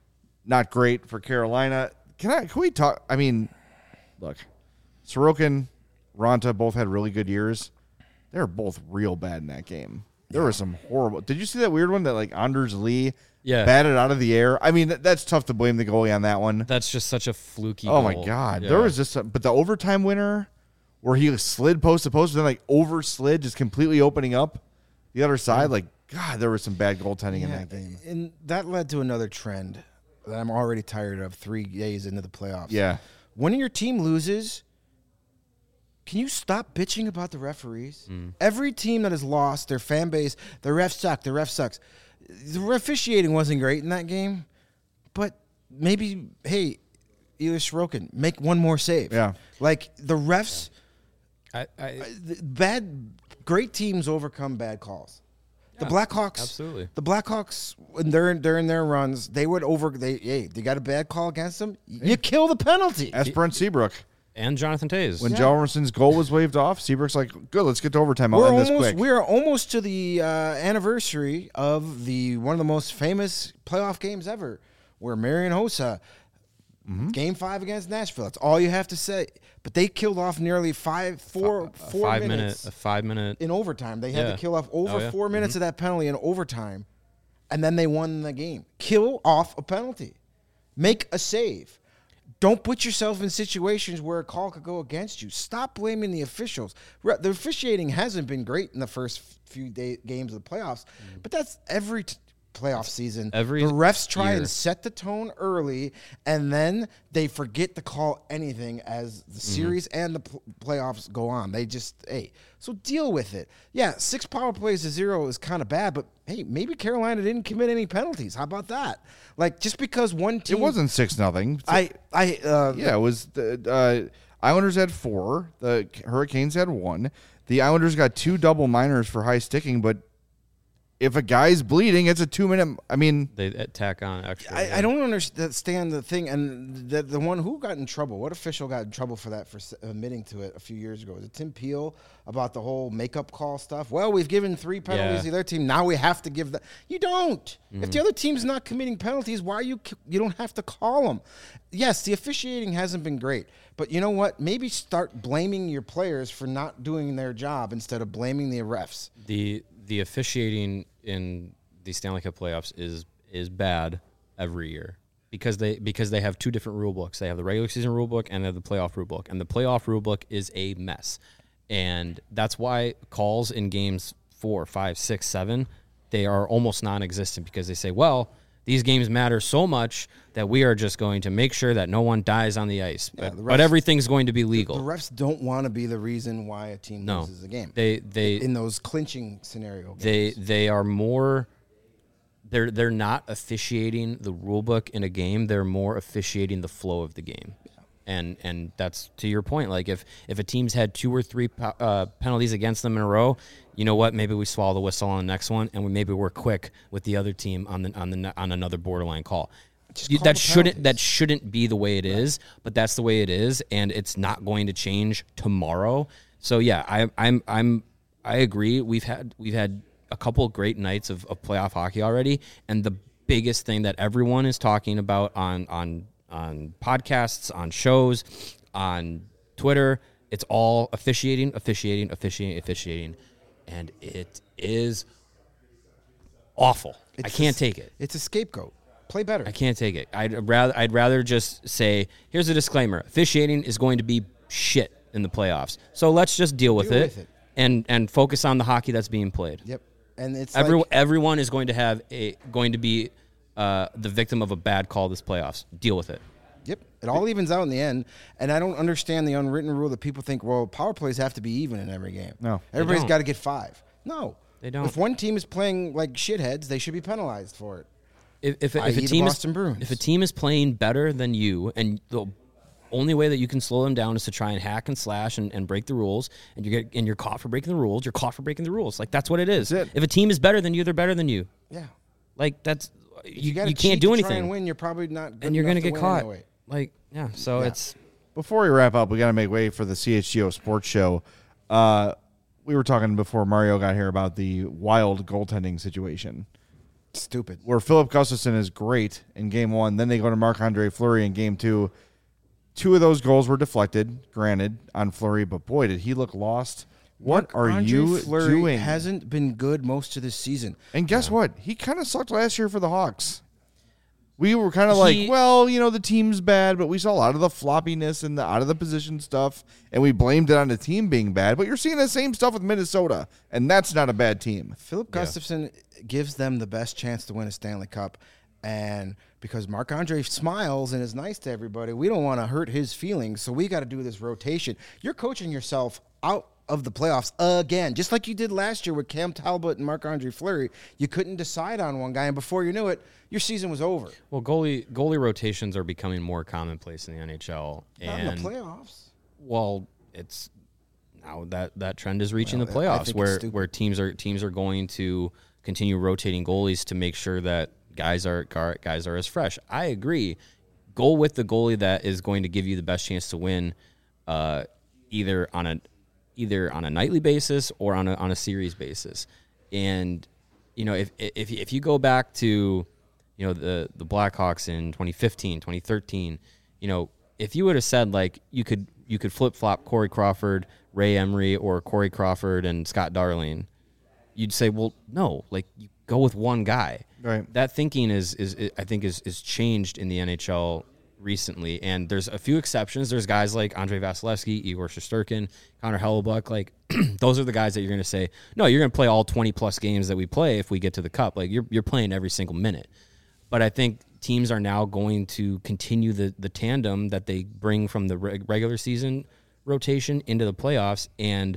not great for Carolina. Can we talk? I mean, look, Sorokin, Ronta both had really good years. They're both real bad in that game. There was some horrible. Did you see that weird one that like Anders Lee Yeah. batted out of the air? I mean, that's tough to blame the goalie on that one. That's just such a fluky Oh, goal. my God. Yeah. There was just but the overtime winner where he slid post to post, then like overslid, just completely opening up the other side. Like, God, there was some bad goaltending in that game. And that led to another trend that I'm already tired of 3 days into the playoffs. Yeah. When your team loses, can you stop bitching about the referees? Every team that has lost, their fan base, the ref sucks. The officiating wasn't great in that game, but maybe, hey, Ilya Sorokin, make one more save. Yeah. Like, the refs, I great teams overcome bad calls. The Blackhawks, absolutely. The Blackhawks, when they're in their runs, they got a bad call against them. You kill the penalty. Ask Brent Seabrook. And Jonathan Toews. When Jalmerson's goal was waved off, Seabrook's like, good, let's get to overtime. I'll end this quick. We are almost to the anniversary of one of the most famous playoff games ever, where Marian Hossa, Game 5 against Nashville. That's all you have to say. But they killed off nearly 4 minutes. A 5 minute in overtime. They had to kill off over 4 minutes of that penalty in overtime, and then they won the game. Kill off a penalty. Make a save. Don't put yourself in situations where a call could go against you. Stop blaming the officials. The officiating hasn't been great in the first few games of the playoffs, but that's every playoff season. The refs try and set the tone early, and then they forget to call anything as the series and the playoffs go on. They just, so deal with it. Yeah, 6 power plays to 0 is kind of bad, but hey, maybe Carolina didn't commit any penalties. How about that? Like, just because one team... It wasn't 6-0. Yeah, it was the Islanders had 4. The Hurricanes had 1. The Islanders got 2 double minors for high sticking, but if a guy's bleeding, it's a 2-minute. I mean, they tack on extra. I don't understand the thing, and the one who got in trouble. What official got in trouble for that, for admitting to it a few years ago? Was it Tim Peel about the whole makeup call stuff? Well, we've given 3 penalties to the other team. Now we have to give that. You don't. If the other team's not committing penalties, why you don't have to call them? Yes, the officiating hasn't been great, but you know what? Maybe start blaming your players for not doing their job instead of blaming the refs. The officiating in the Stanley Cup playoffs is bad every year because they have 2 different rule books. They have the regular season rule book and they have the playoff rule book, and the playoff rule book is a mess. And that's why calls in games 4, 5, 6, 7, they are almost non-existent, because they say, well, these games matter so much that we are just going to make sure that no one dies on the ice. But everything's going to be legal. The refs don't want to be the reason why a team loses a game. They in those clinching scenario games. They are more. They're not officiating the rule book in a game. They're more officiating the flow of the game. And that's to your point. Like if a team's had 2 or 3 penalties against them in a row, you know what? Maybe we swallow the whistle on the next one, and maybe we're quick with the other team on another borderline call. That shouldn't be the way it is, but that's the way it is, and it's not going to change tomorrow. So yeah, I agree. We've had a couple of great nights of playoff hockey already, and the biggest thing that everyone is talking about on podcasts, on shows, on Twitter, it's all officiating, and it is awful. I can't take it. It's a scapegoat. Play better. I can't take it. I'd rather just say, here's a disclaimer: officiating is going to be shit in the playoffs, so let's just deal with it. And focus on the hockey that's being played. Yep. And it's everyone is going to be the victim of a bad call this playoffs. Deal with it. Yep. It all evens out in the end. And I don't understand the unwritten rule that people think, well, power plays have to be even in every game. No. Everybody's got to get 5. No. They don't. If one team is playing like shitheads, they should be penalized for it. If a team is playing better than you, and the only way that you can slow them down is to try and hack and slash and break the rules, and you're caught for breaking the rules, you're caught for breaking the rules. Like, that's what it is. That's it. If a team is better than you, they're better than you. Yeah. Like, that's you can't cheat do to anything. Try and win, you're probably not good and you're going to get caught. Anyway. Like, yeah, so it's... Before we wrap up, we got to make way for the CHGO Sports Show. We were talking before Mario got here about the Wild goaltending situation. Stupid. Where Philip Gustafsson is great in Game 1, then they go to Marc-Andre Fleury in Game 2. 2 of those goals were deflected, granted, on Fleury, but boy, did he look lost. What are you doing? Hasn't been good most of this season. And guess what? He kind of sucked last year for the Hawks. We were kind of like, well, the team's bad, but we saw a lot of the floppiness and the out of the position stuff, and we blamed it on the team being bad. But you're seeing the same stuff with Minnesota, and that's not a bad team. Philip Gustafson gives them the best chance to win a Stanley Cup, and because Marc-Andre smiles and is nice to everybody, we don't want to hurt his feelings, so we got to do this rotation. You're coaching yourself out of the playoffs again, just like you did last year with Cam Talbot and Marc-Andre Fleury. You couldn't decide on one guy, and before you knew it, your season was over. Well, goalie rotations are becoming more commonplace in the NHL. Not in the playoffs. Well, it's now that trend is reaching the playoffs where teams are going to continue rotating goalies to make sure that guys are as fresh. I agree. Go with the goalie that is going to give you the best chance to win, either on a nightly basis or on a series basis. And if you go back to the Blackhawks in 2015, 2013, if you would have said like you could flip-flop Corey Crawford, Ray Emery, or Corey Crawford and Scott Darling, you'd say, well, no, like you go with one guy. Right. That thinking is changed in the NHL recently, and there's a few exceptions. There's guys like Andrei Vasilevsky, Igor Shesterkin, Connor Hellebuyck. Like those are the guys that you're going to say, no, you're going to play all 20-plus games that we play if we get to the Cup. Like you're playing every single minute. But I think teams are now going to continue the tandem that they bring from the regular season rotation into the playoffs, and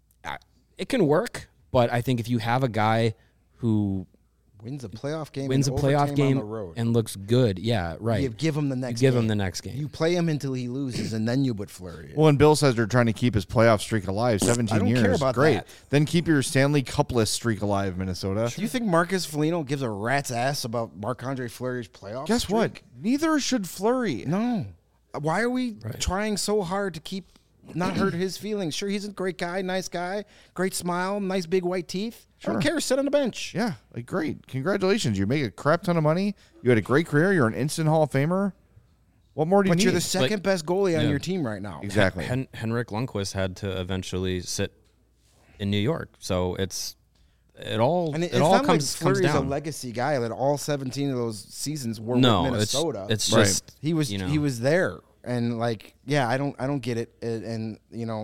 it can work. But I think if you have a guy who wins a playoff game on the road and looks good, yeah, right. You give him the next game. You play him until he loses, and then you put Fleury in. Well, and Bill says they're trying to keep his playoff streak alive. 17 years. Care about great. That. Then keep your Stanley Cup-less streak alive, Minnesota. Do you think Marcus Foligno gives a rat's ass about Marc-Andre Fleury's playoff Guess streak? what? Neither should Fleury. No. Why are we trying so hard to not hurt his feelings? Sure, he's a great guy, nice guy, great smile, nice big white teeth. Sure. I don't care. Sit on the bench. Yeah, like great. Congratulations. You make a crap ton of money. You had a great career. You're an instant Hall of Famer. What more do you need? But you're the second best goalie on your team right now. Exactly. Henrik Lundqvist had to eventually sit in New York, so it all comes Fleury's down. A legacy guy that all 17 of those seasons were with Minnesota. It's just he was there, and I don't get it, and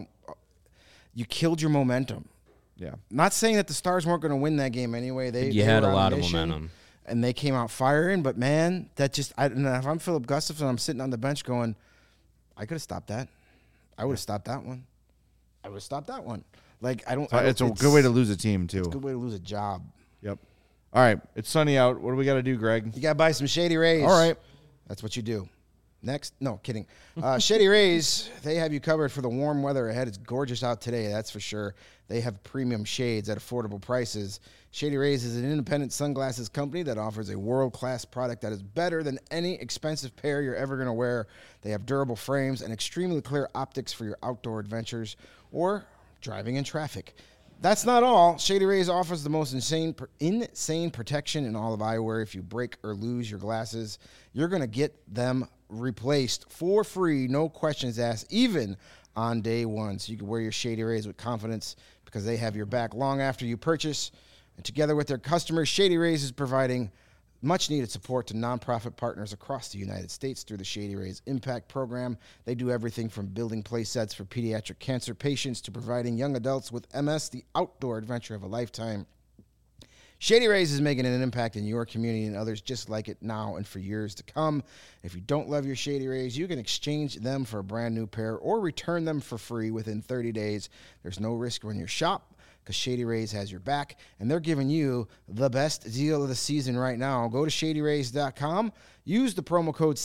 you killed your momentum. Yeah. Not saying that the Stars weren't going to win that game anyway. They had a lot of momentum. And they came out firing, but man, if I'm Philip Gustafson, I'm sitting on the bench going, I could have stopped that. I would have stopped that one. I would have stopped that one. It's a good way to lose a team, too. It's a good way to lose a job. Yep. All right. It's sunny out. What do we got to do, Greg? You got to buy some Shady Rays. All right. That's what you do. Next, no, kidding. Shady Rays, they have you covered for the warm weather ahead. It's gorgeous out today, that's for sure. They have premium shades at affordable prices. Shady Rays is an independent sunglasses company that offers a world-class product that is better than any expensive pair you're ever going to wear. They have durable frames and extremely clear optics for your outdoor adventures or driving in traffic. That's not all. Shady Rays offers the most insane protection in all of eyewear. If you break or lose your glasses, you're going to get them replaced for free, no questions asked, even on day one. So you can wear your Shady Rays with confidence because they have your back long after you purchase. And together with their customers, Shady Rays is providing much-needed support to nonprofit partners across the United States through the Shady Rays Impact Program. They do everything from building play sets for pediatric cancer patients to providing young adults with MS the outdoor adventure of a lifetime. Shady Rays is making an impact in your community and others just like it now and for years to come. If you don't love your Shady Rays, you can exchange them for a brand new pair or return them for free within 30 days. There's no risk when you shop because Shady Rays has your back, and they're giving you the best deal of the season right now. Go to ShadyRays.com, use the promo code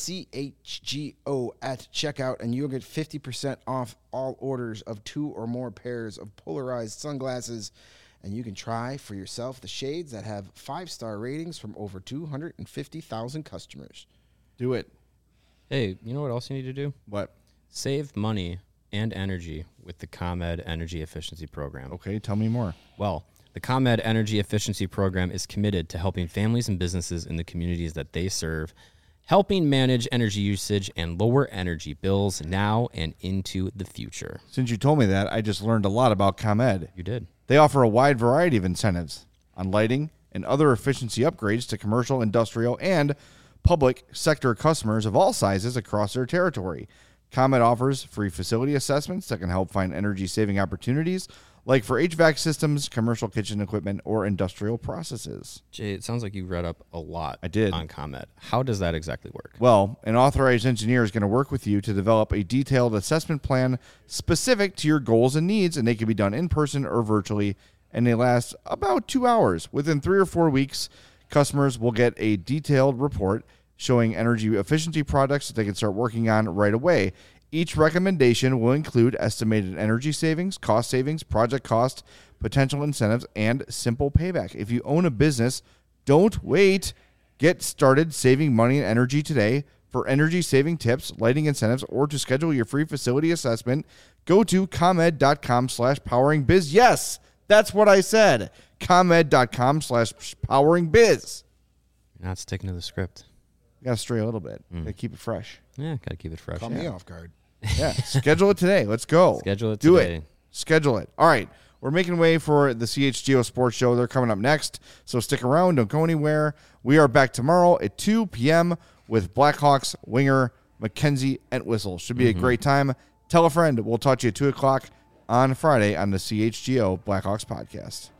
CHGO at checkout, and you'll get 50% off all orders of 2 or more pairs of polarized sunglasses. And you can try for yourself the shades that have 5-star ratings from over 250,000 customers. Do it. Hey, you know what else you need to do? What? Save money and energy with the ComEd Energy Efficiency Program. Okay, tell me more. Well, the ComEd Energy Efficiency Program is committed to helping families and businesses in the communities that they serve helping manage energy usage and lower energy bills now and into the future. Since you told me that, I just learned a lot about ComEd. You did. They offer a wide variety of incentives on lighting and other efficiency upgrades to commercial, industrial, and public sector customers of all sizes across their territory. ComEd offers free facility assessments that can help find energy-saving opportunities, like for HVAC systems, commercial kitchen equipment, or industrial processes. Jay, it sounds like you read up a lot on ComEd. How does that exactly work? Well, an authorized engineer is going to work with you to develop a detailed assessment plan specific to your goals and needs, and they can be done in person or virtually, and they last about 2 hours. Within 3 or 4 weeks, customers will get a detailed report showing energy efficiency projects that they can start working on right away. Each recommendation will include estimated energy savings, project cost, potential incentives, and simple payback. If you own a business, don't wait. Get started saving money and energy today. For energy-saving tips, lighting incentives, or to schedule your free facility assessment, go to ComEd.com/poweringbiz. Yes, that's what I said. ComEd.com/poweringbiz. You're not sticking to the script. You got to stray a little bit. Got to keep it fresh. Yeah, got to keep it fresh. Caught me off guard. Yeah, schedule it today. Let's go. Schedule it today. Do it. Schedule it. All right. We're making way for the CHGO Sports Show. They're coming up next, so stick around. Don't go anywhere. We are back tomorrow at 2 p.m. with Blackhawks winger Mackenzie Entwistle. Should be a great time. Tell a friend. We'll talk to you at 2 o'clock on Friday on the CHGO Blackhawks podcast.